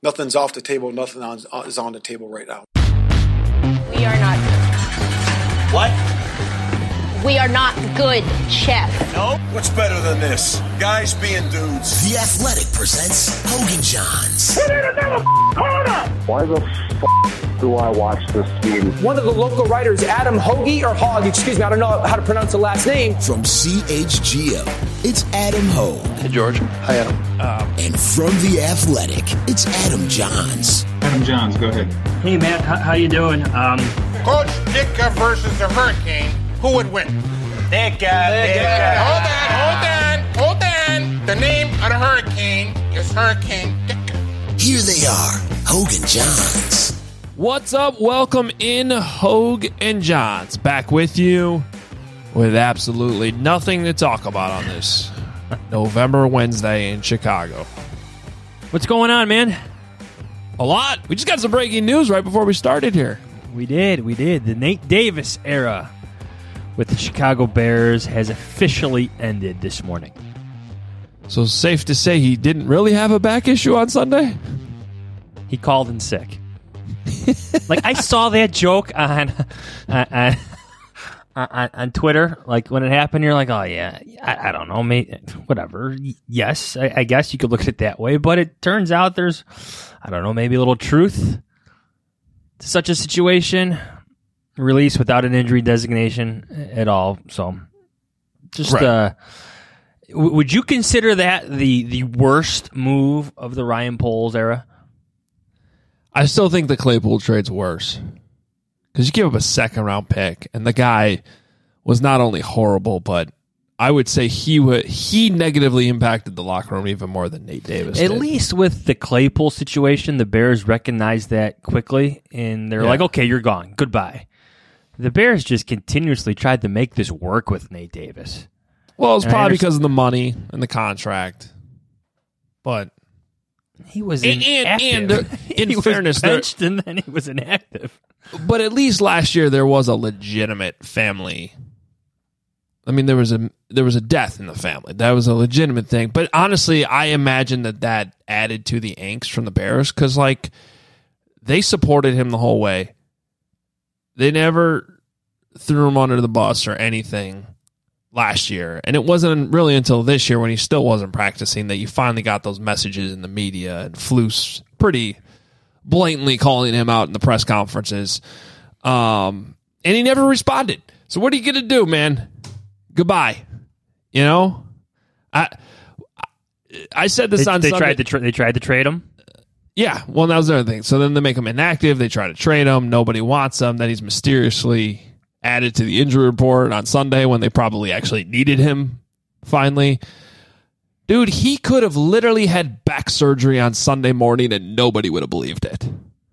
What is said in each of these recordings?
Nothing's off the table. Nothing is on the table right now. We are not good. What? We are not good, Chef. No? What's better than this? Guys being dudes. The Athletic presents Hogan Johns. Put in another corner! Why the do I watch this game? One of the local writers, Adam Hoagie, or Hogg, excuse me, I don't know how to pronounce the last name. From CHGO, it's Adam Hogue. Hey, George. Hi, Adam. And from The Athletic, it's Adam Johns. Adam Johns, go ahead. Hey, Matt, how you doing? Coach Ditka versus the Hurricane, who would win? Ditka. Hold on. The name of the Hurricane is Hurricane Ditka. Here they are, Hogue and Johns. What's up? Welcome in, Hogue and Johns. Back with you with absolutely nothing to talk about on this November Wednesday in Chicago. What's going on, man? A lot. We just got some breaking news right before we started here. We did. The Nate Davis era with the Chicago Bears has officially ended this morning. So safe to say he didn't really have a back issue on Sunday? He called in sick. Like, I saw that joke on Twitter. Like, when it happened, you're like, oh, yeah, I don't know, mate, whatever. Yes, I guess you could look at it that way. But it turns out there's, I don't know, maybe a little truth to such a situation. Released without an injury designation at all. So, just, right. Would you consider that the worst move of the Ryan Poles era? I still think the Claypool trade's worse. Because you give up a second-round pick, and the guy was not only horrible, but I would say he negatively impacted the locker room even more than Nate Davis did. At least with the Claypool situation, the Bears recognized that quickly, and they're like, okay, you're gone. Goodbye. The Bears just continuously tried to make this work with Nate Davis. Well, it's probably because of the money and the contract. But he was inactive. And in fairness, was benched and then he was inactive. But at least last year there was a legitimate family. I mean, there was a death in the family. That was a legitimate thing. But honestly, I imagine that added to the angst from the Bears because, like, they supported him the whole way. They never threw him under the bus or anything last year. And it wasn't really until this year when he still wasn't practicing that you finally got those messages in the media and Flus pretty blatantly calling him out in the press conferences. And he never responded. So what are you going to do, man? Goodbye. You know? I said this on Sunday. They tried to trade him? Yeah, well, that was the other thing. So then they make him inactive. They try to trade him. Nobody wants him. Then he's mysteriously added to the injury report on Sunday when they probably actually needed him finally. Dude, he could have literally had back surgery on Sunday morning and nobody would have believed it.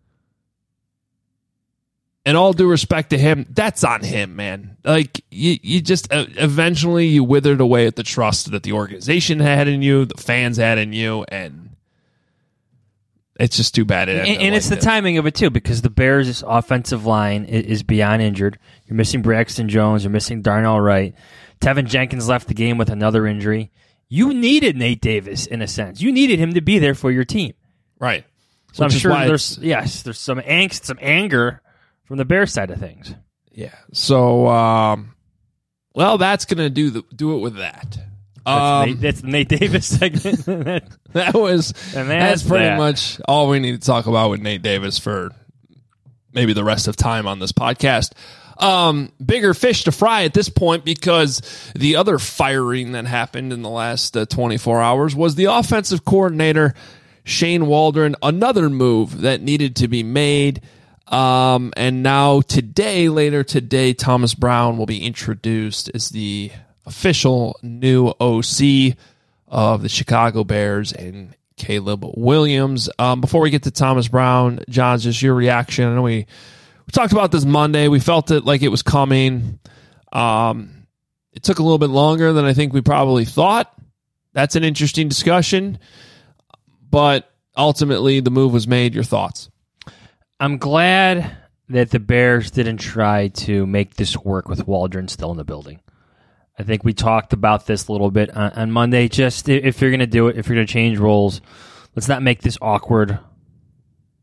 And all due respect to him, that's on him, man. Like, you just eventually you withered away at the trust that the organization had in you, the fans had in you, and it's just too bad. And it's the timing of it, too, because the Bears' offensive line is beyond injured. You're missing Braxton Jones. You're missing Darnell Wright. Tevin Jenkins left the game with another injury. You needed Nate Davis, in a sense. You needed him to be there for your team. Right. So I'm sure there's some angst, some anger from the Bears side of things. Yeah. So, well, that's going to do it with that. That's the Nate Davis segment. That's pretty much all we need to talk about with Nate Davis for maybe the rest of time on this podcast. Bigger fish to fry at this point because the other firing that happened in the last 24 hours was the offensive coordinator, Shane Waldron, another move that needed to be made. And now later today, Thomas Brown will be introduced as the official new OC of the Chicago Bears and Caleb Williams. Before we get to Thomas Brown, John, just your reaction. I know we talked about this Monday. We felt it like it was coming. It took a little bit longer than I think we probably thought. That's an interesting discussion. But ultimately, the move was made. Your thoughts? I'm glad that the Bears didn't try to make this work with Waldron still in the building. I think we talked about this a little bit on Monday. Just if you're going to do it, if you're going to change roles, let's not make this awkward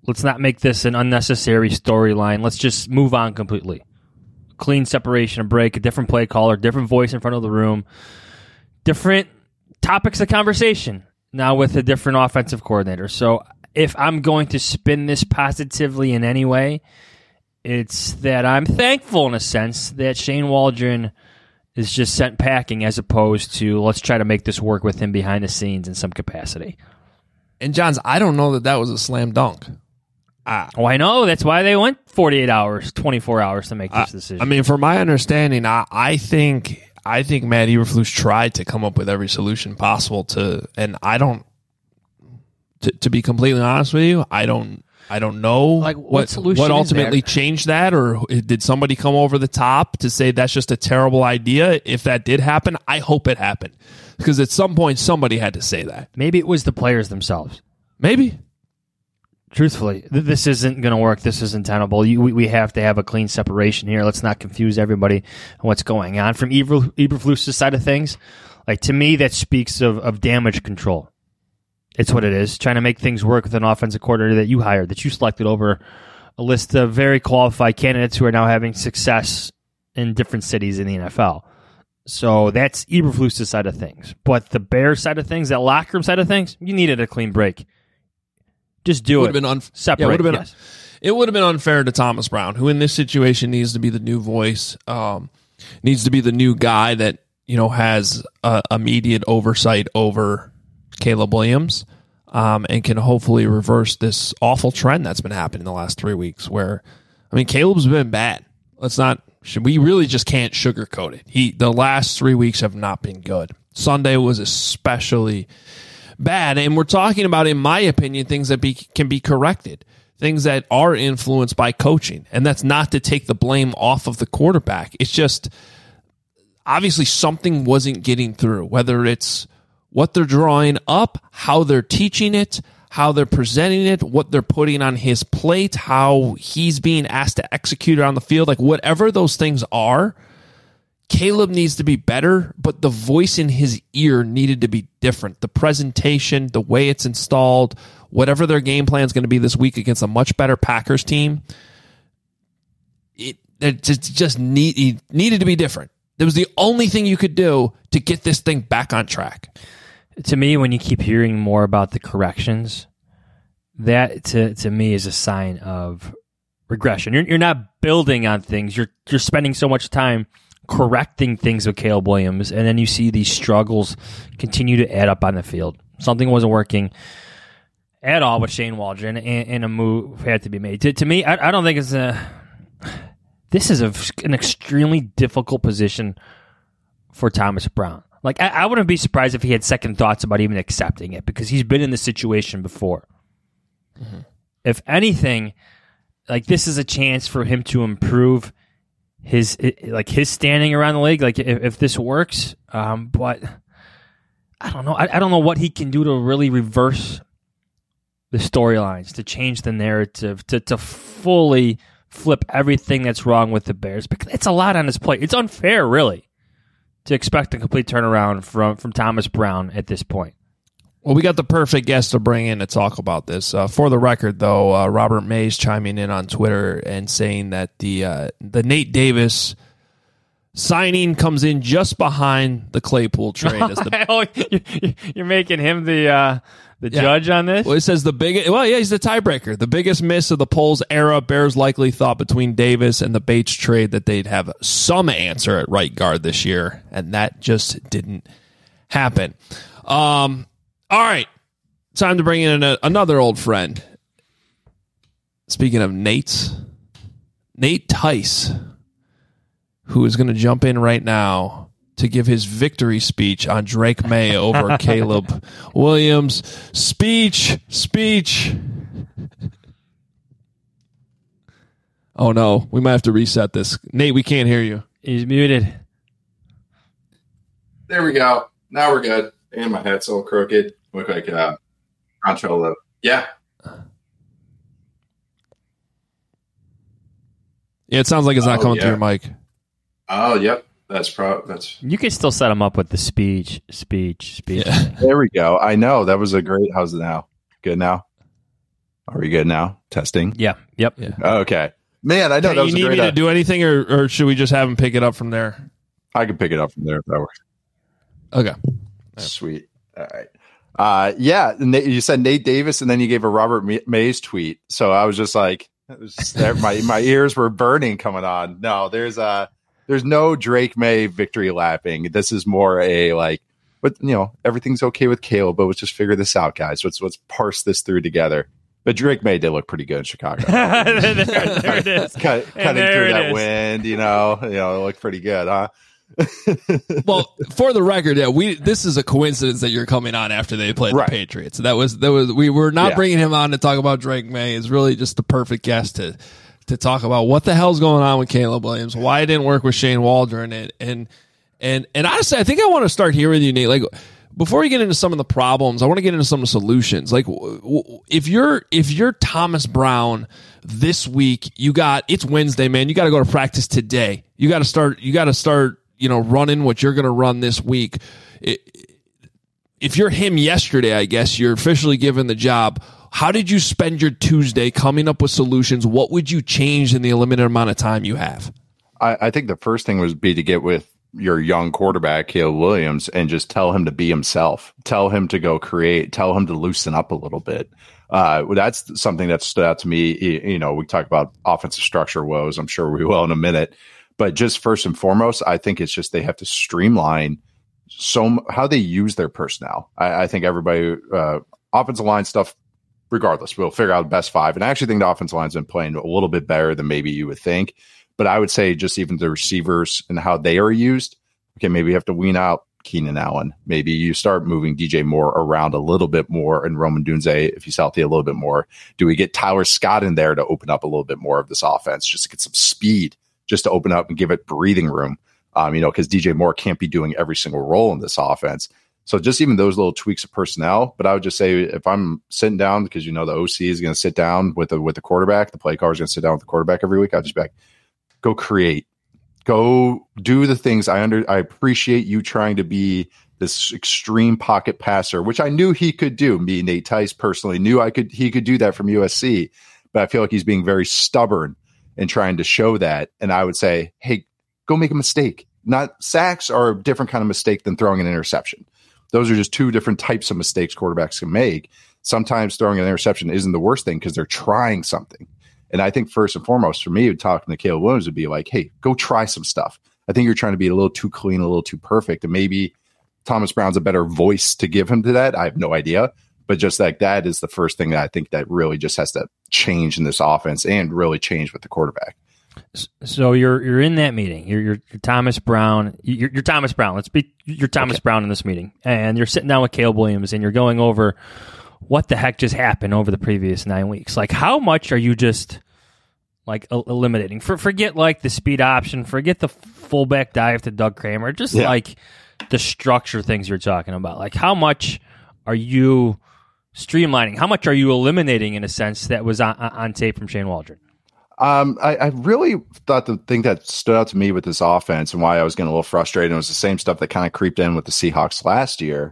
Let's not make this an unnecessary storyline. Let's just move on completely. Clean separation, a break, a different play caller, different voice in front of the room, different topics of conversation now with a different offensive coordinator. So if I'm going to spin this positively in any way, it's that I'm thankful in a sense that Shane Waldron is just sent packing as opposed to let's try to make this work with him behind the scenes in some capacity. And Johns, I don't know that was a slam dunk. I know. That's why they went 48 hours, 24 hours to make this decision. I mean, from my understanding, I think Matt Eberflus tried to come up with every solution possible to be completely honest with you, I don't know what ultimately changed that, or did somebody come over the top to say that's just a terrible idea? If that did happen, I hope it happened, because at some point somebody had to say that. Maybe it was the players themselves. Maybe. Truthfully, this isn't going to work. This isn't tenable. We have to have a clean separation here. Let's not confuse everybody on what's going on. From Eberflus's side of things, like, to me, that speaks of damage control. It's what it is. Trying to make things work with an offensive coordinator that you hired, that you selected over a list of very qualified candidates who are now having success in different cities in the NFL. So that's Eberflus's side of things. But the Bears side of things, that locker room side of things, you needed a clean break. Just do it. Separate. It would have been unfair to Thomas Brown, who in this situation needs to be the new voice, needs to be the new guy that has immediate oversight over Caleb Williams, and can hopefully reverse this awful trend that's been happening the last 3 weeks. Where, I mean, Caleb's been bad. We really just can't sugarcoat it. The last 3 weeks have not been good. Sunday was especially bad, and we're talking about, in my opinion, things that can be corrected, things that are influenced by coaching, and that's not to take the blame off of the quarterback. It's just obviously something wasn't getting through, whether it's what they're drawing up, how they're teaching it, how they're presenting it, what they're putting on his plate, how he's being asked to execute it on the field, like whatever those things are. Caleb needs to be better, but the voice in his ear needed to be different. The presentation, the way it's installed, whatever their game plan is going to be this week against a much better Packers team, it just needed to be different. That was the only thing you could do to get this thing back on track. To me, when you keep hearing more about the corrections, that to me is a sign of regression. You're not building on things. You're spending so much time correcting things with Caleb Williams, and then you see these struggles continue to add up on the field. Something wasn't working at all with Shane Waldron, and a move had to be made. To me, I don't think this is an extremely difficult position for Thomas Brown. Like, I wouldn't be surprised if he had second thoughts about even accepting it, because he's been in this situation before. Mm-hmm. If anything, like, this is a chance for him to improve his standing around the league, like if this works, but I don't know. I don't know what he can do to really reverse the storylines, to change the narrative, to fully flip everything that's wrong with the Bears, because it's a lot on his plate. It's unfair, really, to expect a complete turnaround from Thomas Brown at this point. Well, we got the perfect guest to bring in to talk about this. For the record, though, Robert Mays chiming in on Twitter and saying that the Nate Davis signing comes in just behind the Claypool trade. You're making him the judge on this? Well, it says he's the tiebreaker. The biggest miss of the polls era. Bears likely thought between Davis and the Bates trade that they'd have some answer at right guard this year, and that just didn't happen. All right, time to bring in another old friend. Speaking of Nate Tice, who is going to jump in right now to give his victory speech on Drake May over Caleb Williams. Speech. Oh, no, we might have to reset this. Nate, we can't hear you. He's muted. There we go. Now we're good. And my head's all crooked. Look like Control. Yeah. Yeah, it sounds like it's not coming through your mic. Oh, yep. That's. You can still set him up with the speech. Yeah. There we go. I know. That was a great. How's it now? Good now? Are we good now? Testing? Yeah. Yep. Yeah. Okay. Man, I know that was you need me to do anything, or should we just have him pick it up from there? I can pick it up from there if that works. Okay. Sweet. All right. Yeah, you said Nate Davis, and then you gave a Robert Mays tweet. So I was just like, my ears were burning coming on. No, there's no Drake May victory lapping. This is more a like, but everything's okay with Caleb, but let's just figure this out, guys. Let's parse this through together. But Drake May did look pretty good in Chicago. there it is. Cutting through that wind, it looked pretty good, huh? Well, for the record, this is a coincidence that you're coming on after they played the Patriots. That was we were not bringing him on to talk about Drake May. It's really just the perfect guest to talk about what the hell's going on with Caleb Williams, why it didn't work with Shane Waldron, and honestly, I think I want to start here with you, Nate. Like, before we get into some of the problems, I want to get into some of the solutions. Like, if you're Thomas Brown this week, it's Wednesday, man. You got to go to practice today. You got to start. Running what you're going to run this week. If you're him yesterday, I guess you're officially given the job. How did you spend your Tuesday coming up with solutions? What would you change in the limited amount of time you have? I think the first thing would be to get with your young quarterback, Caleb Williams, and just tell him to be himself. Tell him to go create. Tell him to loosen up a little bit. That's something that stood out to me. We talk about offensive structure woes. I'm sure we will in a minute. But just first and foremost, I think it's just they have to streamline how they use their personnel. I think everybody, offensive line stuff, regardless, we'll figure out the best five. And I actually think the offensive line's been playing a little bit better than maybe you would think. But I would say just even the receivers and how they are used, okay, maybe you have to wean out Keenan Allen. Maybe you start moving DJ Moore around a little bit more and Roman Dunze, if he's healthy, a little bit more. Do we get Tyler Scott in there to open up a little bit more of this offense, just to get some speed, just to open up and give it breathing room, because DJ Moore can't be doing every single role in this offense. So just even those little tweaks of personnel. But I would just say if I'm sitting down, because the OC is going to sit down with the quarterback, the play caller is going to sit down with the quarterback every week, I'll just be like, go create, go do the things. I appreciate you trying to be this extreme pocket passer, which I knew he could do. Me, Nate Tice personally knew he could do that from USC, but I feel like he's being very stubborn and trying to show that. And I would say, hey, go make a mistake. Not sacks are a different kind of mistake than throwing an interception. Those are just two different types of mistakes quarterbacks can make. Sometimes throwing an interception isn't the worst thing because they're trying something. And I think first and foremost for me, talking to Caleb Williams would be like, hey, go try some stuff. I think you're trying to be a little too clean, a little too perfect. And maybe Thomas Brown's a better voice to give him to that. I have no idea. But just like that is the first thing that I think that really just has to change in this offense and really change with the quarterback. So you're in that meeting. You're Thomas Brown. You're Thomas Brown. Let's be you're Thomas Brown in this meeting, and you're sitting down with Caleb Williams, and you're going over what the heck just happened over the previous 9 weeks. Like, how much are you just like eliminating? Forget like the speed option. Forget the fullback dive to Doug Kramer. Just like the structure things you're talking about. Like, how much are you streamlining? How much are you eliminating in a sense that was on tape from Shane Waldron? I really thought the thing that stood out to me with this offense and why I was getting a little frustrated, and it was the same stuff that kind of creeped in with the Seahawks last year,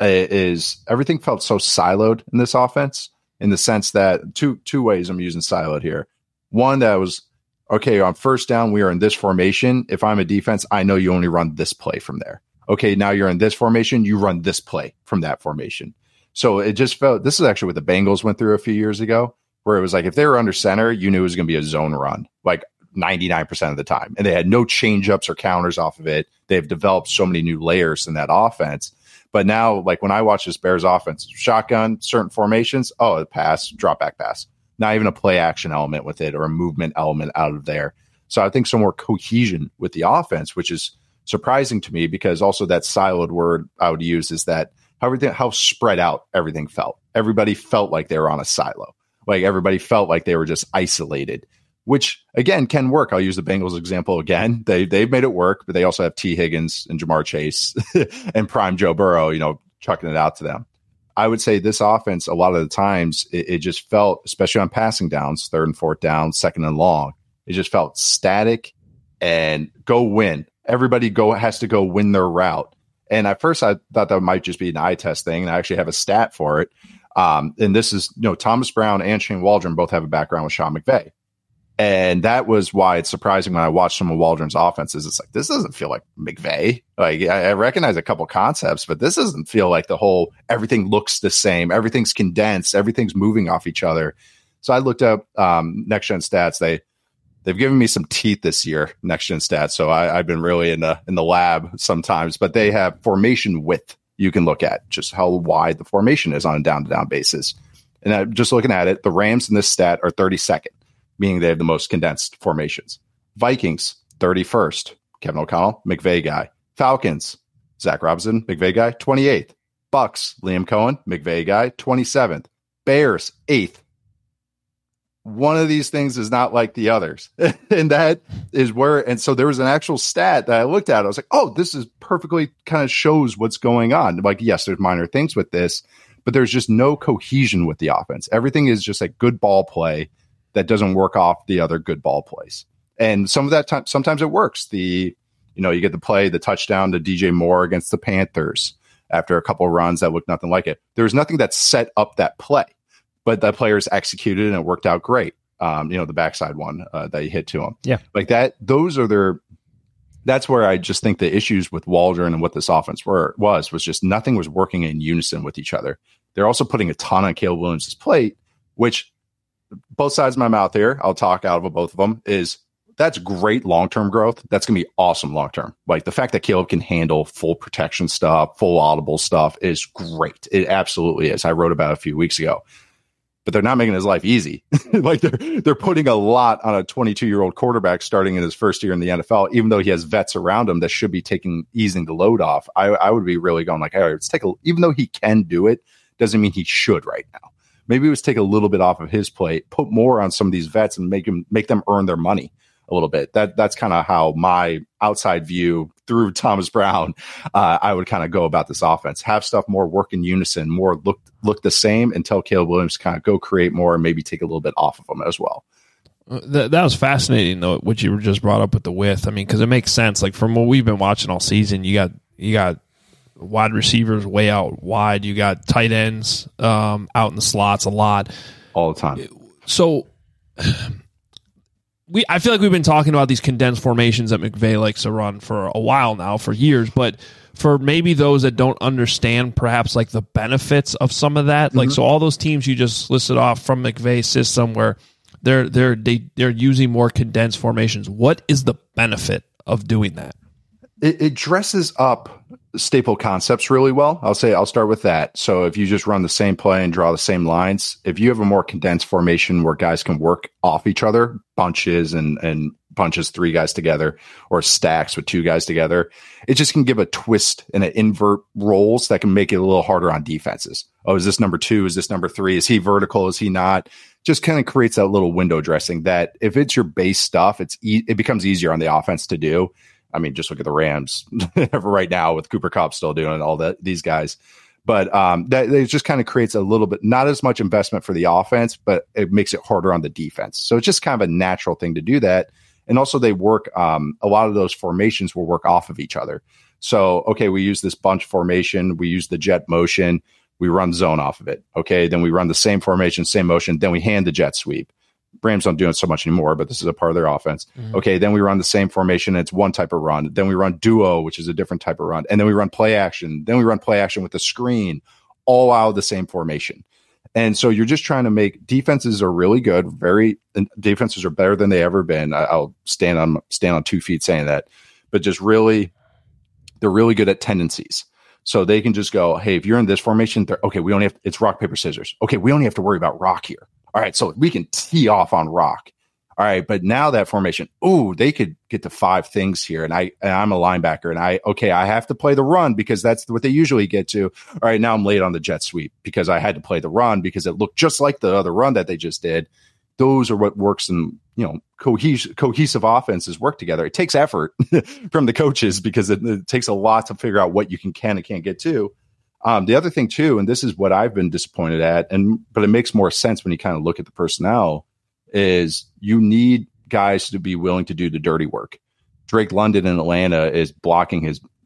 is everything felt so siloed in this offense, in the sense that two ways I'm using siloed here. One, that was, okay, on first down, we are in this formation. If I'm a defense, I know you only run this play from there. Okay, now you're in this formation, you run this play from that formation. So it just felt, this is actually what the Bengals went through a few years ago, where it was like, if they were under center, you knew it was going to be a zone run, like 99% of the time. And they had no change-ups or counters off of it. They've developed so many new layers in that offense. But now, like when I watch this Bears offense, shotgun, certain formations, a pass, drop back pass. Not even a play action element with it or a movement element out of there. So I think some more cohesion with the offense, which is surprising to me, because also that siloed word I would use is that how spread out everything felt. Everybody felt like they were on a silo. Like everybody felt like they were just isolated, which again can work. I'll use the Bengals example again. They've made it work, but they also have T. Higgins and Jamar Chase and prime Joe Burrow, chucking it out to them. I would say this offense, a lot of the times, it just felt, especially on passing downs, 3rd and 4th down, 2nd and long, it just felt static and go win. Everybody has to go win their route. And at first I thought that might just be an eye test thing. And I actually have a stat for it. And this is, Thomas Brown and Shane Waldron both have a background with Sean McVay. And that was why it's surprising when I watched some of Waldron's offenses. It's like, this doesn't feel like McVay. Like, I recognize a couple concepts, but this doesn't feel like the whole, everything looks the same. Everything's condensed. Everything's moving off each other. So I looked up Next Gen Stats. They've given me some teeth this year, Next Gen Stats. So I've been really in the lab sometimes, but they have formation width. You can look at just how wide the formation is on a down-to-down basis. And I'm just looking at it, the Rams in this stat are 32nd, meaning they have the most condensed formations. Vikings, 31st, Kevin O'Connell, McVay guy. Falcons, Zach Robinson, McVay guy, 28th. Bucks, Liam Cohen, McVay guy, 27th. Bears, 8th. One of these things is not like the others. And that is where, and so there was an actual stat that I looked at. I was like, oh, this is perfectly kind of shows what's going on. Like, yes, there's minor things with this, but there's just no cohesion with the offense. Everything is just like good ball play that doesn't work off the other good ball plays. And some of that time, sometimes it works. You get the touchdown to DJ Moore against the Panthers after a couple of runs that looked nothing like it. There's nothing that set up that play. But the players executed and it worked out great. The backside one that he hit to him. Yeah. Like that, that's where I just think the issues with Waldron and what this offense was just nothing was working in unison with each other. They're also putting a ton on Caleb Williams' plate, which both sides of my mouth here, I'll talk out of both of them, is that's great long-term growth. That's going to be awesome long-term. Like the fact that Caleb can handle full protection stuff, full audible stuff is great. It absolutely is. I wrote about it a few weeks ago. But they're not making his life easy. Like they're putting a lot on a 22-year-old quarterback starting in his first year in the NFL, even though he has vets around him that should be easing the load off. I would be really going like, all right, even though he can do it, doesn't mean he should right now. Maybe let's take a little bit off of his plate, put more on some of these vets and make them earn their money a little bit. That's kind of how my outside view through Thomas Brown, I would kind of go about this offense. Have stuff more work in unison, more look the same, and tell Caleb Williams to kind of go create more and maybe take a little bit off of them as well. That was fascinating, though, what you just brought up with the width. I mean, because it makes sense. Like from what we've been watching all season, you got wide receivers way out wide. You got tight ends out in the slots a lot. All the time. So I feel like we've been talking about these condensed formations that McVay likes to run for a while now, for years, but for maybe those that don't understand perhaps like the benefits of some of that, like so all those teams you just listed off from McVay's system where they're using more condensed formations. What is the benefit of doing that? It dresses up staple concepts really well. I'll start with that. So if you just run the same play and draw the same lines, if you have a more condensed formation where guys can work off each other, bunches and bunches 3 guys together or stacks with 2 guys together, it just can give a twist and an invert roles that can make it a little harder on defenses. Oh, is this number 2? Is this number 3? Is he vertical? Is he not? Just kind of creates that little window dressing that if it's your base stuff, it becomes easier on the offense to do. I mean, just look at the Rams right now with Cooper Kupp still doing all these guys. But that it just kind of creates a little bit, not as much investment for the offense, but it makes it harder on the defense. So it's just kind of a natural thing to do that. And also they work, a lot of those formations will work off of each other. So, okay, we use this bunch formation. We use the jet motion. We run zone off of it. Okay, then we run the same formation, same motion. Then we hand the jet sweep. Rams don't do it so much anymore, but this is a part of their offense. Mm-hmm. Okay, then we run the same formation. It's one type of run. Then we run duo, which is a different type of run. And then we run play action. Then we run play action with the screen, all out of the same formation. And so you're just trying to make defenses are really good. Defenses are better than they ever been. I'll stand on 2 feet saying that, but just really, they're really good at tendencies. So they can just go, hey, if you're in this formation, okay, it's rock, paper, scissors. Okay, we only have to worry about rock here. All right, so we can tee off on rock. All right, but now that formation, they could get to 5 things here, and I'm a linebacker, and I have to play the run because that's what they usually get to. All right, now I'm late on the jet sweep because I had to play the run because it looked just like the other run that they just did. Those are what works in, cohesive offenses work together. It takes effort from the coaches because it takes a lot to figure out what you can and can't get to. The other thing too, and this is what I've been disappointed at, but it makes more sense when you kind of look at the personnel, is you need guys to be willing to do the dirty work. Drake London in Atlanta is blocking his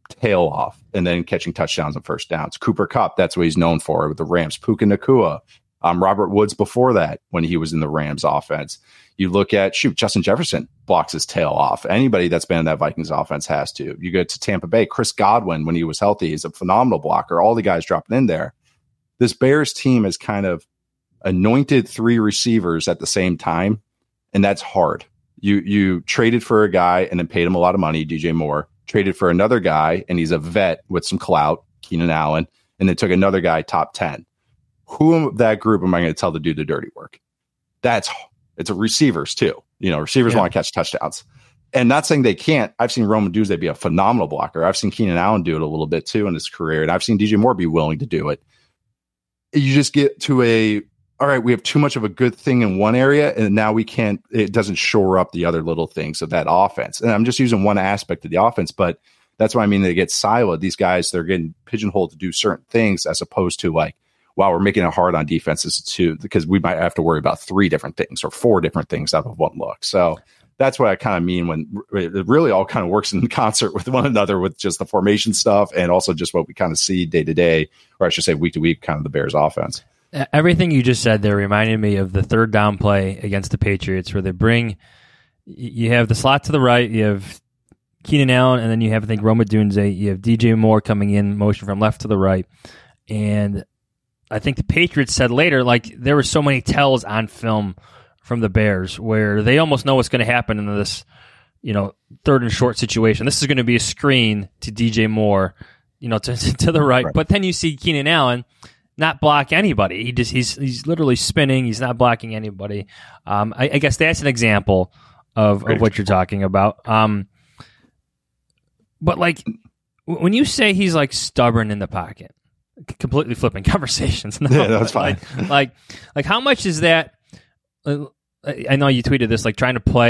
tail off and then catching touchdowns and first downs. Cooper Kupp, that's what he's known for with the Rams. Puka Nacua, Robert Woods before that when he was in the Rams offense. You look at, Justin Jefferson blocks his tail off. Anybody that's been in that Vikings offense has to. You go to Tampa Bay, Chris Godwin, when he was healthy, is a phenomenal blocker. All the guys dropping in there. This Bears team has kind of anointed 3 receivers at the same time, and that's hard. You traded for a guy and then paid him a lot of money, DJ Moore. Traded for another guy, and he's a vet with some clout, Keenan Allen, and then took another guy top 10. Who of that group am I going to tell to do the dirty work? It's a receivers too. Receivers want to catch touchdowns. And not saying they can't. I've seen Roman Duzay be a phenomenal blocker. I've seen Keenan Allen do it a little bit too in his career. And I've seen DJ Moore be willing to do it. You just get to all right, we have too much of a good thing in one area, and now it doesn't shore up the other little things of that offense. And I'm just using one aspect of the offense, but that's what I mean. They get siloed. These guys, they're getting pigeonholed to do certain things as opposed to wow, we're making it hard on defenses too, because we might have to worry about 3 different things or 4 different things out of one look. So that's what I kind of mean when it really all kind of works in concert with one another with just the formation stuff and also just what we kind of see day to day, or I should say week to week, kind of the Bears offense. Everything you just said there reminded me of the third down play against the Patriots where you have the slot to the right, you have Keenan Allen, and then you have, I think, Rome Odunze, you have DJ Moore coming in, motion from left to the right. And I think the Patriots said later, there were so many tells on film from the Bears where they almost know what's going to happen in this, third and short situation. This is going to be a screen to DJ Moore, to the right. But then you see Keenan Allen not block anybody. He's literally spinning. He's not blocking anybody. I guess that's an example of what you're talking about. But when you say he's stubborn in the pocket, completely flipping conversations. No, yeah, that's fine. Like how much is that? I know you tweeted this, trying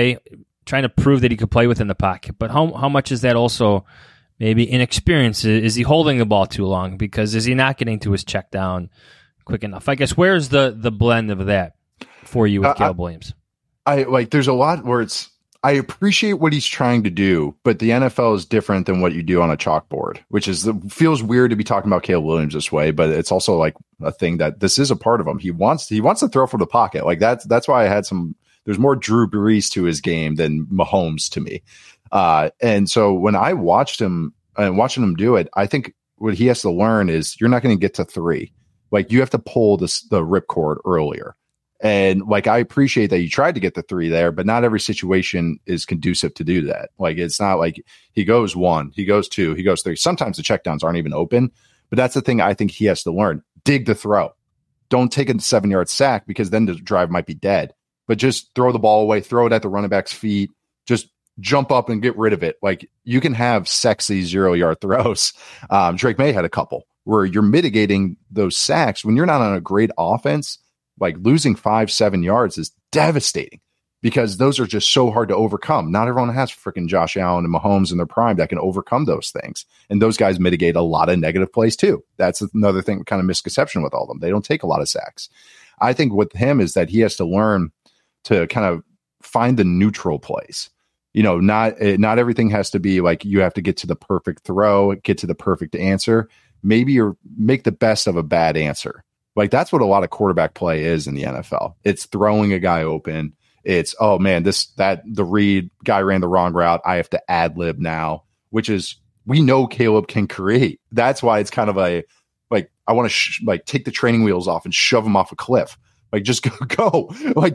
to prove that he could play within the pocket. But how much is that also maybe inexperience? Is he holding the ball too long? Because is he not getting to his check down quick enough? I guess where's the blend of that for you with Caleb Williams? There's a lot where I appreciate what he's trying to do, but the NFL is different than what you do on a chalkboard, which feels weird to be talking about Caleb Williams this way, but it's also a thing that this is a part of him. He wants to throw from the pocket. That's why I had there's more Drew Brees to his game than Mahomes to me. And so when I watched him and watching him do it, I think what he has to learn is you're not going to get to 3. You have to pull the ripcord earlier. And I appreciate that you tried to get the 3 there, but not every situation is conducive to do that. It's not he goes 1, he goes 2, he goes 3. Sometimes the checkdowns aren't even open, but that's the thing I think he has to learn. Dig the throw. Don't take a 7-yard sack because then the drive might be dead, but just throw the ball away, throw it at the running back's feet, just jump up and get rid of it. You can have sexy 0-yard throws. Drake May had a couple where you're mitigating those sacks when you're not on a great offense. Losing 5-7 yards is devastating because those are just so hard to overcome. Not everyone has freaking Josh Allen and Mahomes in their prime that can overcome those things. And those guys mitigate a lot of negative plays too. That's another thing, kind of misconception with all of them. They don't take a lot of sacks. I think with him is that he has to learn to kind of find the neutral plays. Not everything has to be you have to get to the perfect throw, get to the perfect answer. Maybe make the best of a bad answer. That's what a lot of quarterback play is in the NFL. It's throwing a guy open. It's, oh man, the read guy ran the wrong route. I have to ad lib now, which is, we know Caleb can create. That's why it's kind of I want to take the training wheels off and shove him off a cliff. Just go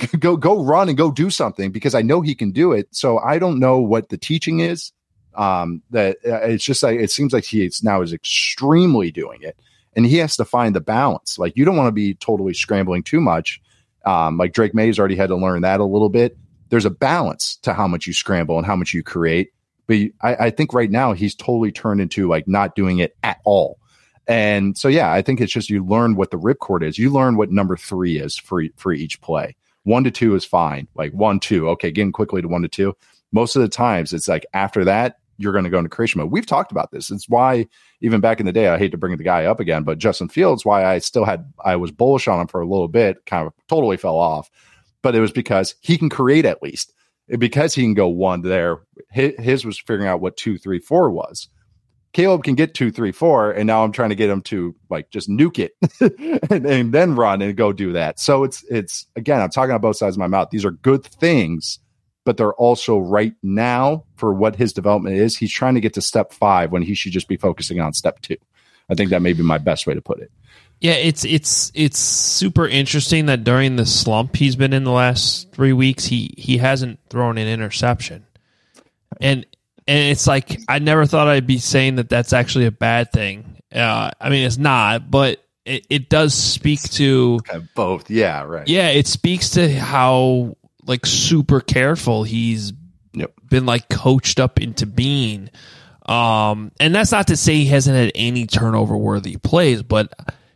run and go do something because I know he can do it. So I don't know what the teaching is. That it's just it seems like he now is extremely doing it. And he has to find the balance. You don't want to be totally scrambling too much. Drake May's already had to learn that a little bit. There's a balance to how much you scramble and how much you create. But I think right now he's totally turned into not doing it at all. And so, yeah, I think it's just you learn what the ripcord is. You learn what number 3 is for each play. 1 to 2 is fine. 1, 2. Okay, getting quickly to 1 to 2. Most of the times it's after that, you're going to go into creation mode. We've talked about this. It's why even back in the day, I hate to bring the guy up again, but Justin Fields, why I was bullish on him for a little bit, kind of totally fell off, but it was because he can create at least. Because he can go 1 there. His was figuring out what 2, 3, 4 was. Caleb can get 2, 3, 4, and now I'm trying to get him to like just nuke it and then run and go do that. So it's again, I'm talking on both sides of my mouth. These are good things, but they're also right now for what his development is. He's trying to get to step 5 when he should just be focusing on step 2. I think that may be my best way to put it. Yeah, it's super interesting that during the slump he's been in the last 3 weeks, he hasn't thrown an interception, and it's like I never thought I'd be saying that that's actually a bad thing. I mean, it's not, but it does speak to both. Yeah, right. Yeah, it speaks to how like super careful he's been like coached up into being. And that's not to say he hasn't had any turnover worthy plays, but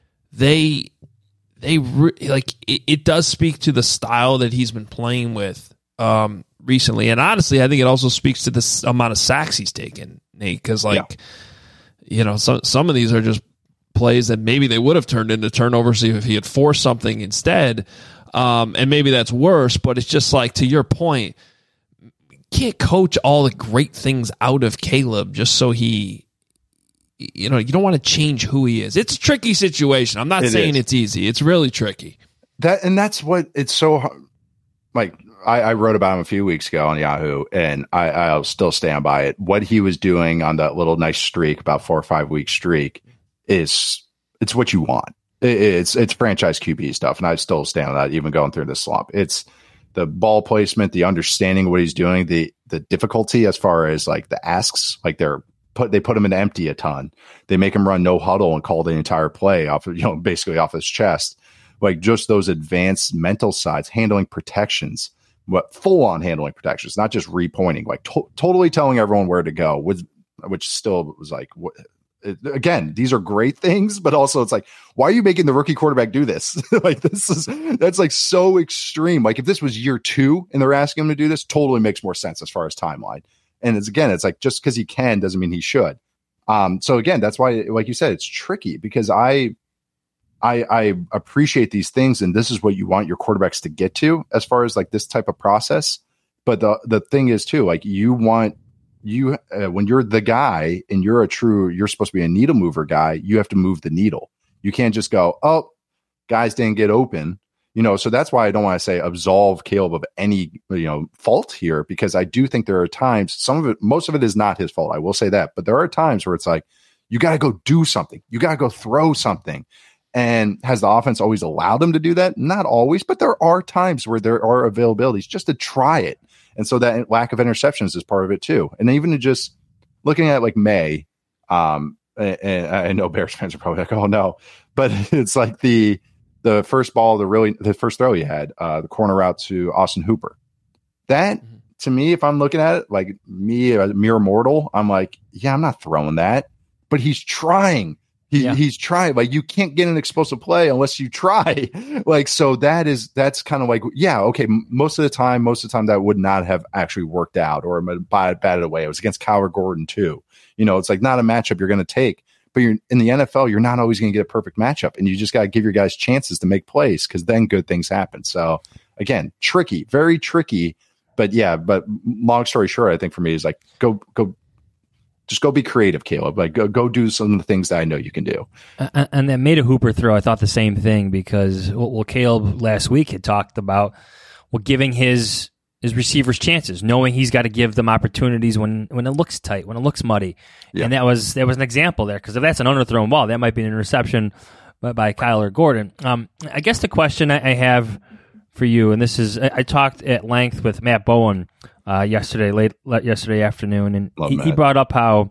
it does speak to the style that he's been playing with recently. And honestly, I think it also speaks to this amount of sacks he's taken, Nate, because some of these are just plays that maybe they would have turned into turnovers if he had forced something instead. And maybe that's worse, but it's just like, to your point, you can't coach all the great things out of Caleb just so he, you don't want to change who he is. It's a tricky situation. I'm not saying it's easy. It's really tricky. That's what it's so hard. Like I wrote about him a few weeks ago on Yahoo, and I'll still stand by it. What he was doing on that little nice streak, about 4 or 5 week streak, it's what you want. It's franchise QB stuff, and I still stand on that, even going through this slump. It's the ball placement, the understanding of what he's doing, the difficulty as far as like the asks, like they put him in empty a ton. They make him run no huddle and call the entire play off of, basically off his chest. Like just those advanced mental sides, handling protections, full on handling protections, not just repointing, like totally telling everyone where to go, which still was like, again, these are great things, but also it's like, why are you making the rookie quarterback do this? Like that's like so extreme. Like if this was year 2 and they're asking him to do this, totally makes more sense as far as timeline. And it's like, just because he can doesn't mean he should. So again, that's why, like you said, it's tricky because I appreciate these things, and this is what you want your quarterbacks to get to as far as like this type of process. But the thing is too, like when you're the guy and you're supposed to be a needle mover guy, you have to move the needle. You can't just go, oh, guys didn't get open. So that's why I don't want to say absolve Caleb of any, fault here, because I do think there are times, most of it is not his fault. I will say that, but there are times where it's like, you got to go do something. You got to go throw something. And has the offense always allowed him to do that? Not always, but there are times where there are availabilities just to try it. And so that lack of interceptions is part of it too. And even just looking at like May, and I know Bears fans are probably like, oh no, but it's like the first ball, the first throw he had, the corner route to Austin Hooper. That, to me, if I'm looking at it, like me, a mere mortal, I'm like, yeah, I'm not throwing that. But he's trying. He's trying. Like, you can't get an explosive play unless you try. Like, so that's kind of like, yeah, okay, most of the time that would not have actually worked out or batted away. It was against Kyler Gordon too. It's like not a matchup you're going to take. But you're in the NFL, you're not always going to get a perfect matchup, and you just got to give your guys chances to make plays because then good things happen. So again, tricky, very tricky. But yeah, long story short, I think for me is like go be creative, Caleb. Like go do some of the things that I know you can do. And that made a Hooper throw. I thought the same thing because Caleb last week had talked about giving his receivers chances, knowing he's got to give them opportunities when it looks tight, when it looks muddy. Yeah. And that was an example there, because if that's an underthrown ball, that might be an interception by Kyler Gordon. I guess the question I have for you, and this is, I talked at length with Matt Bowen yesterday afternoon, and he brought up how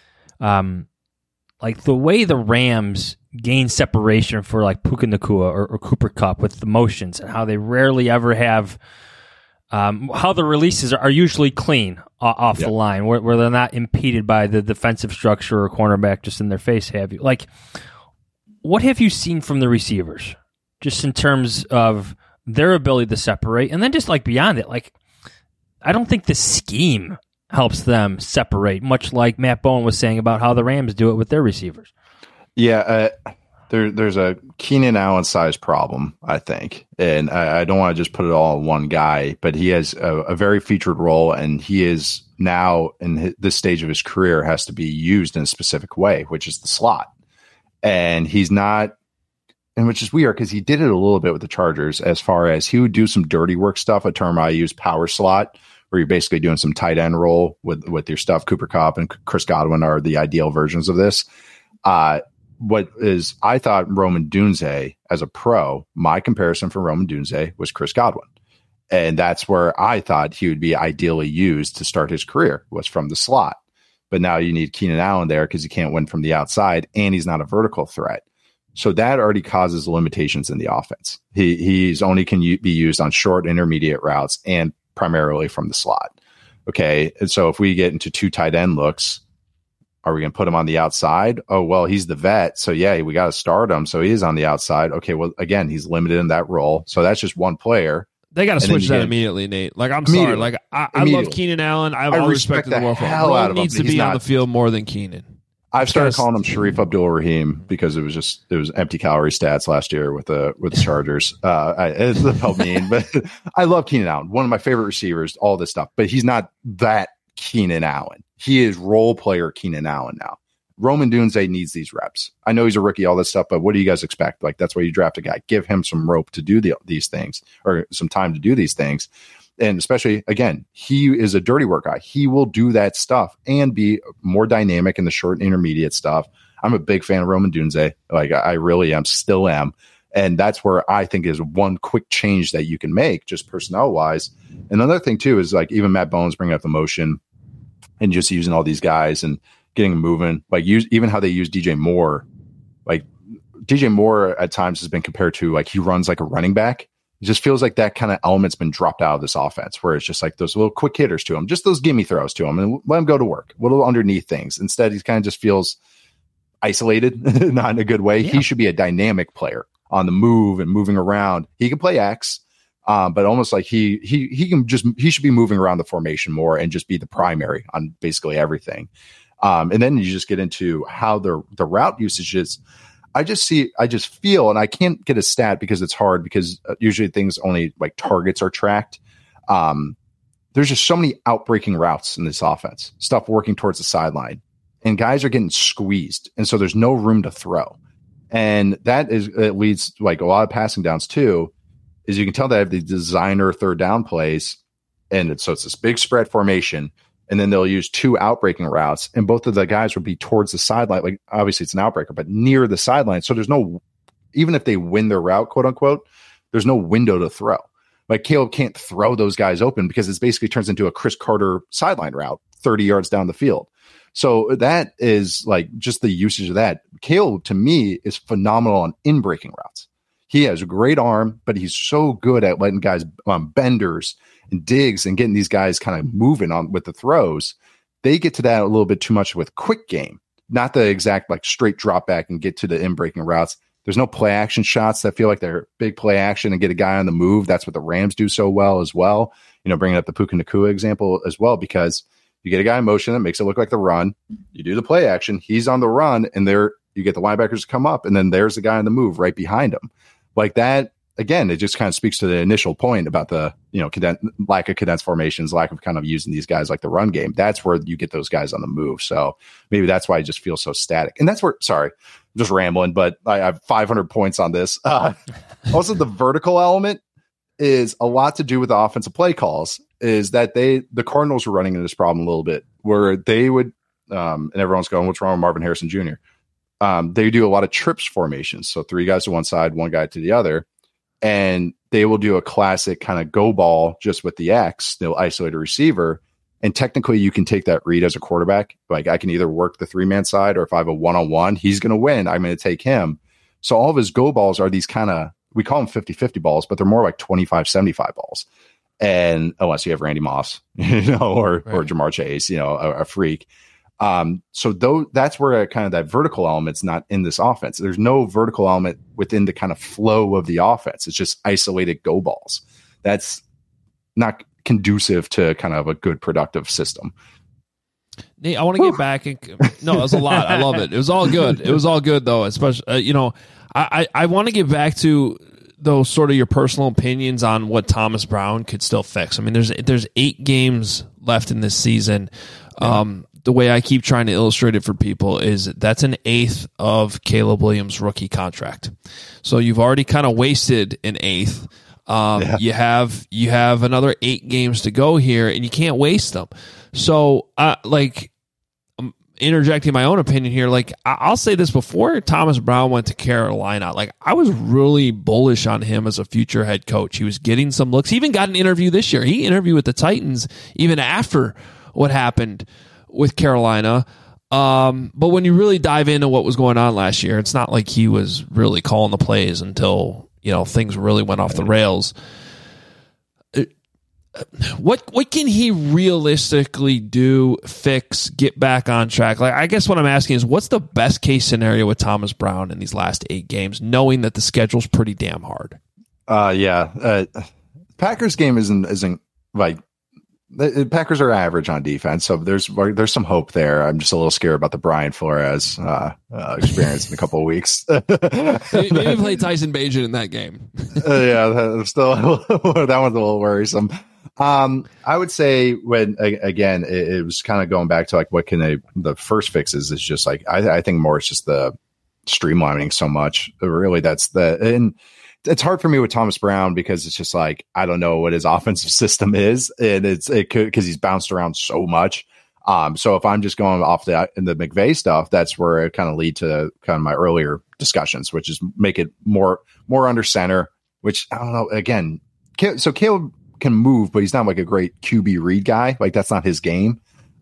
like the way the Rams gain separation for like Puka Nacua or Cooper Kupp with the motions, and how they rarely ever have how the releases are usually clean off the line, where they're not impeded by the defensive structure or cornerback just in their face. Have you, like, what have you seen from the receivers just in terms of their ability to separate? And then just like beyond it, like, I don't think the scheme helps them separate, much like Matt Bowen was saying about how the Rams do it with their receivers. Yeah, there's a Keenan Allen size problem, I think. And I don't want to just put it all on one guy, but he has a very featured role, and he is now in this stage of his career has to be used in a specific way, which is the slot. And he's not, and which is weird because he did it a little bit with the Chargers as far as he would do some dirty work stuff, a term I use, power slot, where you're basically doing some tight end role with your stuff. Cooper Kupp and Chris Godwin are the ideal versions of this. What is, I thought Roman Dunze as a pro, my comparison for Roman Dunze was Chris Godwin. And that's where I thought he would be ideally used to start his career, was from the slot. But now you need Keenan Allen there because he can't win from the outside, and he's not a vertical threat. So that already causes limitations in the offense. He's only can be used on short, intermediate routes and primarily from the slot. Okay. And so if we get into 2 tight end looks, are we going to put him on the outside? Oh, well, he's the vet. So yeah, we got to start him. So he is on the outside. Okay. Well, again, he's limited in that role. So that's just one player. They got to switch that immediately, Nate. Like, I'm sorry. Like, I love Keenan Allen. I have all respect in the world for him. He needs to be on the field more than Keenan. I've started calling him Sharif Abdul-Rahim because it was empty calorie stats last year with the Chargers. It felt mean, but I love Keenan Allen, one of my favorite receivers, all this stuff. But he's not that Keenan Allen. He is role player Keenan Allen now. Roman Dunze needs these reps. I know he's a rookie, all this stuff, but what do you guys expect? Like, that's why you draft a guy. Give him some rope to do these things, or some time to do these things. And especially, again, he is a dirty work guy. He will do that stuff and be more dynamic in the short and intermediate stuff. I'm a big fan of Roman Dunze. Like, I really am, still am. And that's where I think is one quick change that you can make, just personnel-wise. Another thing, too, is like even Matt Bones bringing up the motion and just using all these guys and getting them moving. Like, even how they use DJ Moore. Like, DJ Moore at times has been compared to, like, he runs like a running back. It just feels like that kind of element's been dropped out of this offense, where it's just like those little quick hitters to him, just those gimme throws to him, and let him go to work, little underneath things. Instead, he kind of just feels isolated, not in a good way. Yeah. He should be a dynamic player on the move and moving around. He can play X, but almost like he should be moving around the formation more and just be the primary on basically everything. And then you just get into how the route usage is. I just feel, and I can't get a stat because it's hard, because usually things only like targets are tracked. There's just so many outbreaking routes in this offense, stuff working towards the sideline, and guys are getting squeezed. And so there's no room to throw. And it leads to like a lot of passing downs too, is you can tell they have the designer third down plays. And so it's this big spread formation. And then they'll use 2 outbreaking routes, and both of the guys will be towards the sideline. Like, obviously it's an outbreaker, but near the sideline. So there's no, even if they win their route, quote unquote, there's no window to throw. Like, Caleb can't throw those guys open because it basically turns into a Chris Carter sideline route 30 yards down the field. So that is like just the usage of that. Caleb, to me, is phenomenal on in-breaking routes. He has a great arm, but he's so good at letting guys benders and digs and getting these guys kind of moving on with the throws. They get to that a little bit too much with quick game, not the exact like straight drop back and get to the in-breaking routes. There's no play action shots that feel like they're big play action and get a guy on the move. That's what the Rams do so well as well. You know, bringing up the Puka Nacua example as well, because you get a guy in motion that makes it look like the run. You do the play action. He's on the run, and you get the linebackers to come up, and then there's the guy on the move right behind him. Like that, again, it just kind of speaks to the initial point about the, lack of condensed formations, lack of kind of using these guys like the run game. That's where you get those guys on the move. So maybe that's why I just feel so static. And that's where, sorry, I'm just rambling, but I have 500 points on this. Also, the vertical element is a lot to do with the offensive play calls, is that the Cardinals were running into this problem a little bit, where they would, and everyone's going, what's wrong with Marvin Harrison Jr.? They do a lot of trips formations. So 3 guys to one side, 1 guy to the other. And they will do a classic kind of go ball just with the X. They'll isolate a receiver. And technically you can take that read as a quarterback. Like, I can either work the 3-man side, or if I have a 1-on-1, he's going to win. I'm going to take him. So all of his go balls are these kind of, we call them 50-50 balls, but they're more like 25-75 balls. And unless you have Randy Moss, or Jamar Chase, a freak. So that's where kind of that vertical element's not in this offense. There's no vertical element within the kind of flow of the offense. It's just isolated go balls. That's not conducive to kind of a good productive system. Nate, I want to get back. No, it was a lot. I love it. It was all good. It was all good, though. Especially, I want to get back to those sort of your personal opinions on what Thomas Brown could still fix. I mean, there's 8 games left in this season. The way I keep trying to illustrate it for people is that's an eighth of Caleb Williams' rookie contract. So you've already kind of wasted an eighth. You have another 8 games to go here, and you can't waste them. So, I'm interjecting my own opinion here. Like, I'll say this: before Thomas Brown went to Carolina, like, I was really bullish on him as a future head coach. He was getting some looks. He even got an interview this year. He interviewed with the Titans even after what happened with Carolina. But when you really dive into what was going on last year, it's not like he was really calling the plays until, things really went off the rails. What can he realistically do, fix, get back on track? Like, I guess what I'm asking is, what's the best case scenario with Thomas Brown in these last 8 games, knowing that the schedule's pretty damn hard? Packers game isn't like, the Packers are average on defense, so there's some hope there. I'm just a little scared about the Brian Flores experience in a couple of weeks. Maybe play Tyson Bagent in that game. That one's a little worrisome. I would say when again it was kind of going back to like what can the first fixes is just like I think more it's just the streamlining so much. Really, and it's hard for me with Thomas Brown because it's just like I don't know what his offensive system is, and it could because he's bounced around so much. So if I'm just going off the McVay stuff, that's where it kind of lead to kind of my earlier discussions, which is make it more under center. Which I don't know. Again, so Caleb can move, but he's not like a great QB read guy. Like that's not his game.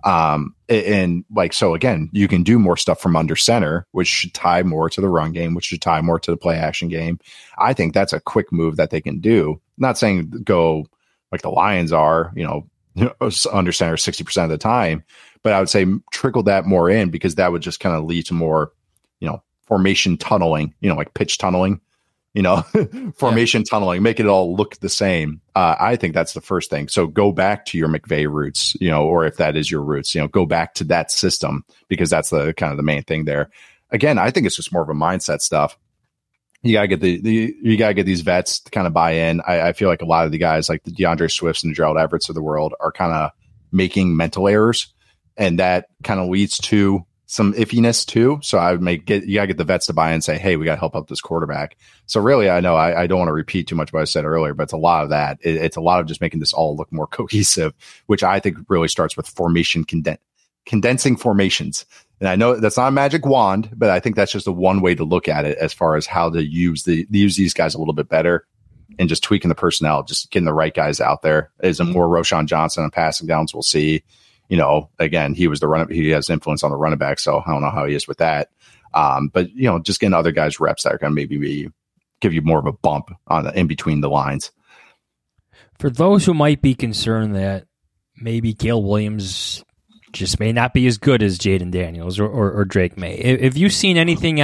And like, so again, you can do more stuff from under center, which should tie more to the run game, which should tie more to the play action game. I think that's a quick move that they can do. Not saying go like the Lions are, under center 60% of the time, but I would say trickle that more in because that would just kind of lead to more, formation tunneling, like pitch tunneling, formation tunneling, make it all look the same. I think that's the first thing. So go back to your McVay roots, or if that is your roots, go back to that system because that's the kind of the main thing there. Again, I think it's just more of a mindset stuff. You gotta get you gotta get these vets to kind of buy in. I feel like a lot of the guys like the DeAndre Swifts and Gerald Everetts of the world are kind of making mental errors, and that kind of leads to some iffiness too. So I would you gotta get the vets to buy in and say, hey, we gotta help out this quarterback. So really, I know I don't want to repeat too much what I said earlier, but it's a lot of that. It's a lot of just making this all look more cohesive, which I think really starts with formation condensing formations. And I know that's not a magic wand, but I think that's just one way to look at it as far as how to use these guys a little bit better and just tweaking the personnel, just getting the right guys out there. Is it more Roschon Johnson on passing downs? We'll see. Again, he has influence on the running back, so I don't know how he is with that. But just getting other guys reps that are going to maybe give you more of a bump in between the lines. For those who might be concerned that maybe Caleb Williams just may not be as good as Jaden Daniels or Drake May, have you seen anything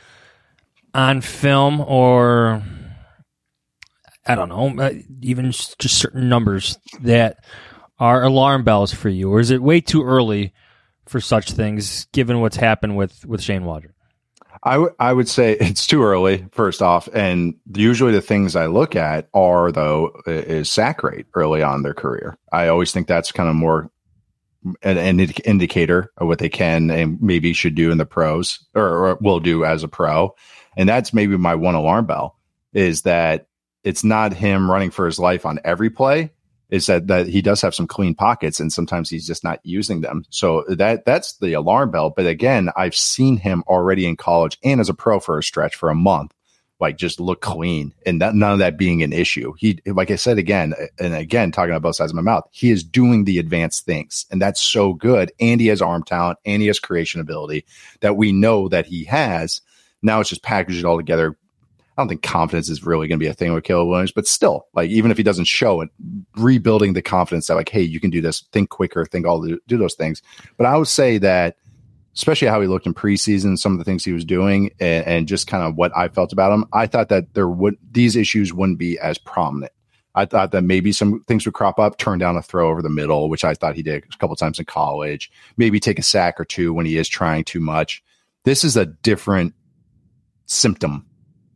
on film or I don't know, even just certain numbers that are alarm bells for you, or is it way too early for such things given what's happened with Shane Waldron? I would say it's too early, first off, and usually the things I look at is sack rate early on in their career. I always think that's kind of more an indicator of what they can and maybe should do in the pros or will do as a pro. And that's maybe my one alarm bell is that it's not him running for his life on every play. Is that he does have some clean pockets and sometimes he's just not using them. So that's the alarm bell. But again, I've seen him already in college and as a pro for a stretch for a month, like just look clean and none of that being an issue. He, like I said, again, talking about both sides of my mouth, he is doing the advanced things and that's so good. And he has arm talent and he has creation ability that we know that he has. Now it's just packaged it all together. I don't think confidence is really going to be a thing with Caleb Williams, but still, like, even if he doesn't show it, rebuilding the confidence that like, hey, you can do this, think quicker, do those things. But I would say that, especially how he looked in preseason, some of the things he was doing and just kind of what I felt about him, I thought that these issues wouldn't be as prominent. I thought that maybe some things would crop up, turn down a throw over the middle, which I thought he did a couple of times in college, maybe take a sack or two when he is trying too much. This is a different symptom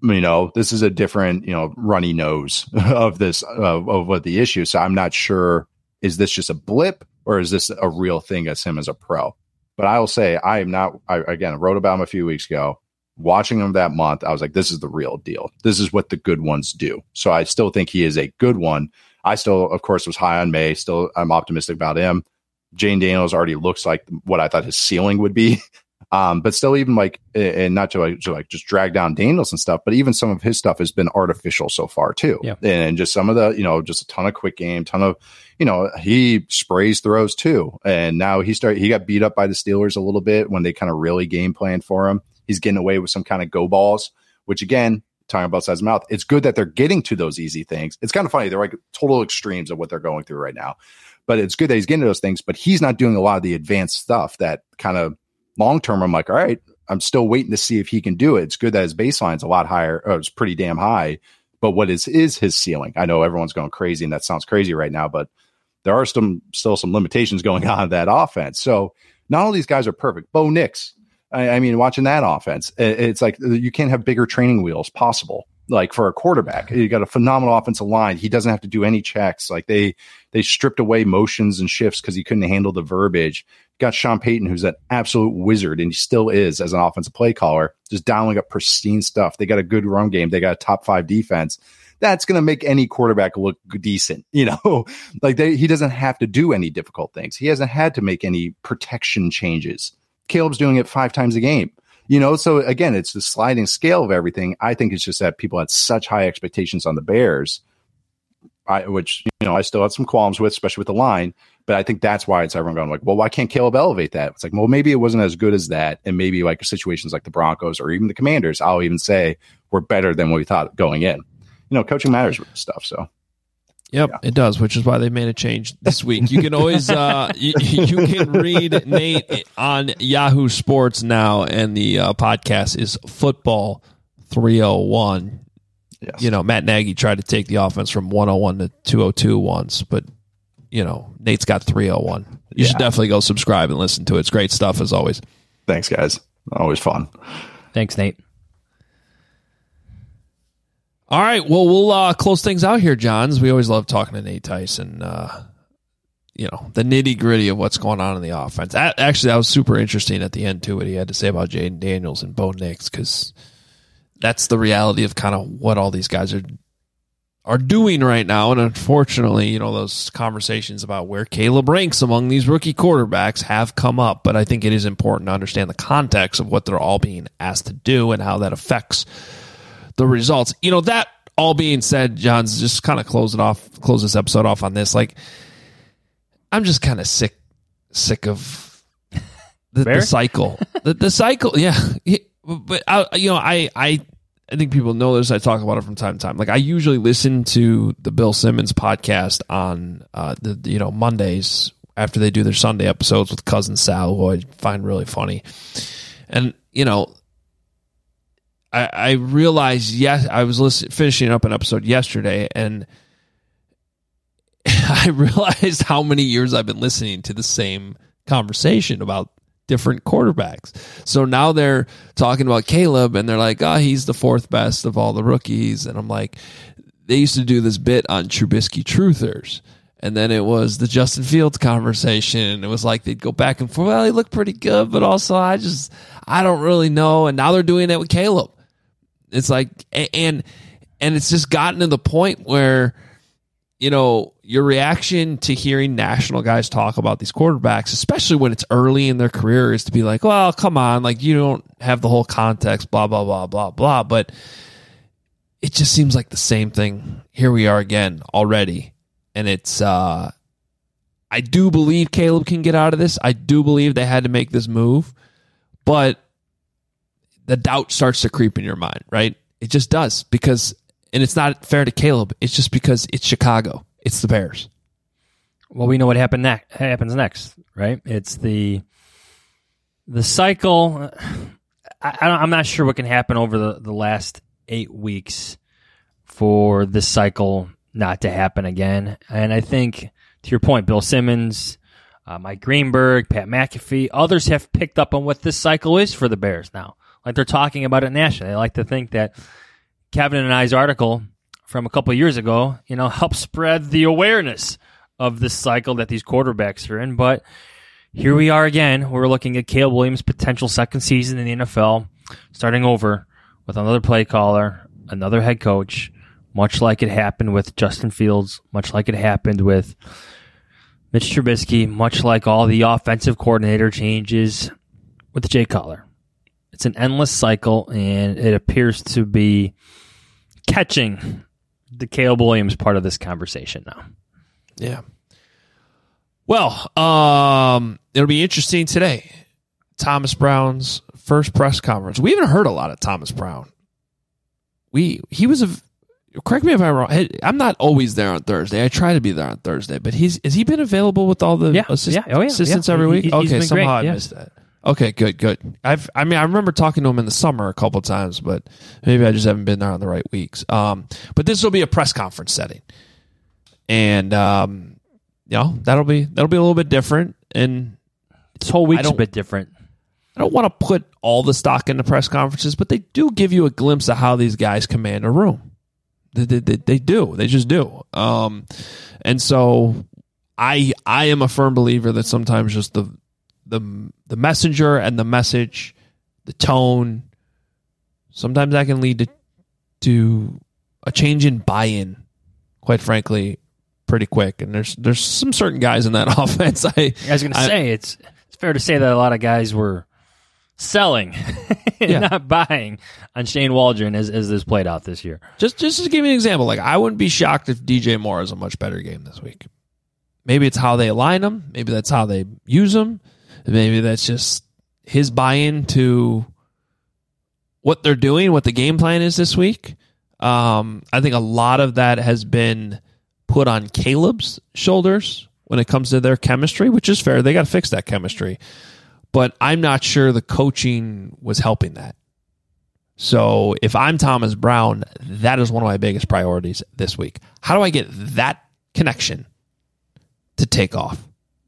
This is a different, runny nose of this, of what the issue. So I'm not sure, is this just a blip or is this a real thing as him as a pro? But I will say I wrote about him a few weeks ago. Watching him that month, I was like, this is the real deal. This is what the good ones do. So I still think he is a good one. I still, of course, was high on May. Still, I'm optimistic about him. Jane Daniels already looks like what I thought his ceiling would be. But still, even and not to just drag down Daniels and stuff, but even some of his stuff has been artificial so far too. Yeah. And just some of the, just a ton of quick game, ton of, he sprays throws too. And now he got beat up by the Steelers a little bit when they kind of really game planned for him. He's getting away with some kind of go balls, which again, talking about size of mouth, it's good that they're getting to those easy things. It's kind of funny. They're like total extremes of what they're going through right now, but it's good that he's getting to those things, but he's not doing a lot of the advanced stuff that kind of long-term. I'm like, all right, I'm still waiting to see if he can do it. It's good that his baseline's a lot higher. It's pretty damn high, but what is his ceiling? I know everyone's going crazy and that sounds crazy right now, but there are still some limitations going on in that offense. So not all these guys are perfect. Bo Nix, I mean, watching that offense, it's like you can't have bigger training wheels possible. Like for a quarterback, you got a phenomenal offensive line. He doesn't have to do any checks. Like they stripped away motions and shifts because he couldn't handle the verbiage. Got Sean Payton, who's an absolute wizard, and he still is as an offensive play caller, just dialing up pristine stuff. They got a good run game. They got a top 5 defense. That's going to make any quarterback look decent. Like he doesn't have to do any difficult things. He hasn't had to make any protection changes. Caleb's doing it 5 times a game. So again, it's the sliding scale of everything. I think it's just that people had such high expectations on the Bears, which I still had some qualms with, especially with the line. But I think that's why it's everyone going like, well, why can't Caleb elevate that? It's like, well, maybe it wasn't as good as that. And maybe like situations like the Broncos or even the Commanders, I'll even say were better than what we thought going in. Coaching matters with stuff. So. Yep, yeah. It does, which is why they made a change this week. You can always you can read Nate on Yahoo Sports now, and the podcast is Football 301. Yes. Matt Nagy tried to take the offense from 101 to 202 once, but Nate's got 301. You should definitely go subscribe and listen to it. It's great stuff as always. Thanks, guys. Always fun. Thanks, Nate. All right, well, we'll close things out here, Johns. We always love talking to Nate Tyson, the nitty-gritty of what's going on in the offense. Actually, that was super interesting at the end, too, what he had to say about Jaden Daniels and Bo Nix, because that's the reality of kind of what all these guys are doing right now. And unfortunately, those conversations about where Caleb ranks among these rookie quarterbacks have come up, but I think it is important to understand the context of what they're all being asked to do and how that affects the results. That all being said, John's just kind of close this episode off on this. Like, I'm just kind of sick of the cycle. the cycle, yeah. But I think people know this. I talk about it from time to time. Like, I usually listen to the Bill Simmons podcast on Mondays after they do their Sunday episodes with Cousin Sal, who I find really funny. And I realized, I was finishing up an episode yesterday, and I realized how many years I've been listening to the same conversation about different quarterbacks. So now they're talking about Caleb, and they're like, he's the 4th best of all the rookies. And I'm like, they used to do this bit on Trubisky Truthers. And then it was the Justin Fields conversation. It was like they'd go back and forth. Well, he looked pretty good, but also I don't really know. And now they're doing it with Caleb. It's like, and it's just gotten to the point where, your reaction to hearing national guys talk about these quarterbacks, especially when it's early in their career, is to be like, well, come on, like you don't have the whole context, blah, blah, blah, blah, blah. But it just seems like the same thing. Here we are again already. And it's, I do believe Caleb can get out of this. I do believe they had to make this move, but the doubt starts to creep in your mind, right? It just does, and it's not fair to Caleb. It's just because it's Chicago. It's the Bears. Well, we know what happens next, right? It's the cycle. I'm not sure what can happen over the last 8 weeks for this cycle not to happen again. And I think, to your point, Bill Simmons, Mike Greenberg, Pat McAfee, others have picked up on what this cycle is for the Bears now. Like, they're talking about it nationally. They like to think that, Kevin and I's article from a couple of years ago, helped spread the awareness of this cycle that these quarterbacks are in. But here we are again. We're looking at Caleb Williams' potential second season in the NFL, starting over with another play caller, another head coach, much like it happened with Justin Fields, much like it happened with Mitch Trubisky, much like all the offensive coordinator changes with Jay Cutler. It's an endless cycle, and it appears to be catching the Caleb Williams part of this conversation now. Yeah. Well, it'll be interesting today. Thomas Brown's first press conference. We haven't heard a lot of Thomas Brown. He was correct me if I'm wrong. I'm not always there on Thursday. I try to be there on Thursday, but has he been available with all the assistants every week? Okay, somehow I missed that. Okay, good. I remember talking to him in the summer a couple of times, but maybe I just haven't been there on the right weeks. But this will be a press conference setting, and that'll be a little bit different. And this whole week's a bit different. I don't want to put all the stock into press conferences, but they do give you a glimpse of how these guys command a room. They do. They just do. And so I am a firm believer that sometimes just the messenger and the message, the tone, sometimes that can lead to a change in buy-in, quite frankly, pretty quick. And there's some certain guys in that offense. I was going to say, it's fair to say that a lot of guys were selling and not buying on Shane Waldron as this played out this year. Just to give you an example, like I wouldn't be shocked if DJ Moore has a much better game this week. Maybe it's how they align him. Maybe that's how they use him. Maybe that's just his buy-in to what they're doing, what the game plan is this week. I think a lot of that has been put on Caleb's shoulders when it comes to their chemistry, which is fair. They got to fix that chemistry. But I'm not sure the coaching was helping that. So if I'm Thomas Brown, that is one of my biggest priorities this week. How do I get that connection to take off?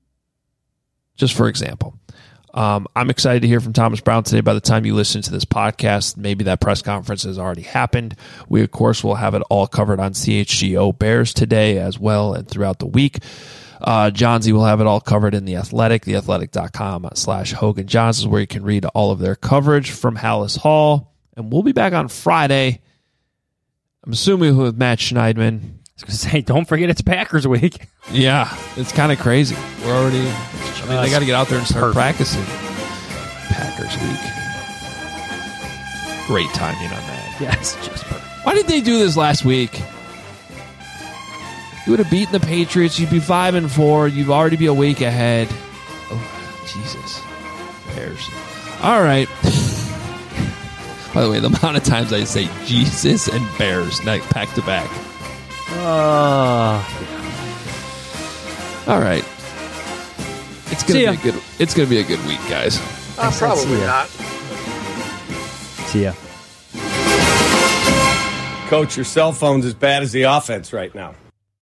Just for example. I'm excited to hear from Thomas Brown today. By the time you listen to this podcast, maybe that press conference has already happened. We, of course, will have it all covered on CHGO Bears today as well and throughout the week. John Z will have it all covered in The Athletic, theathletic.com/Hogan Johns is where you can read all of their coverage from Hallis Hall. And we'll be back on Friday, I'm assuming with Matt Schneidman. I was going to say, don't forget it's Packers week. Yeah, it's kind of crazy. We're already, they got to get out there and start practicing. Packers week. Great timing on that. Yes, just perfect. Why did they do this last week? You would have beaten the Patriots. You'd be 5-4. You'd already be a week ahead. Oh, Jesus. Bears. All right. By the way, the amount of times I say Jesus and Bears back to back. All right. It's gonna be a good week, guys. Probably not. See ya. Coach, your cell phone's as bad as the offense right now.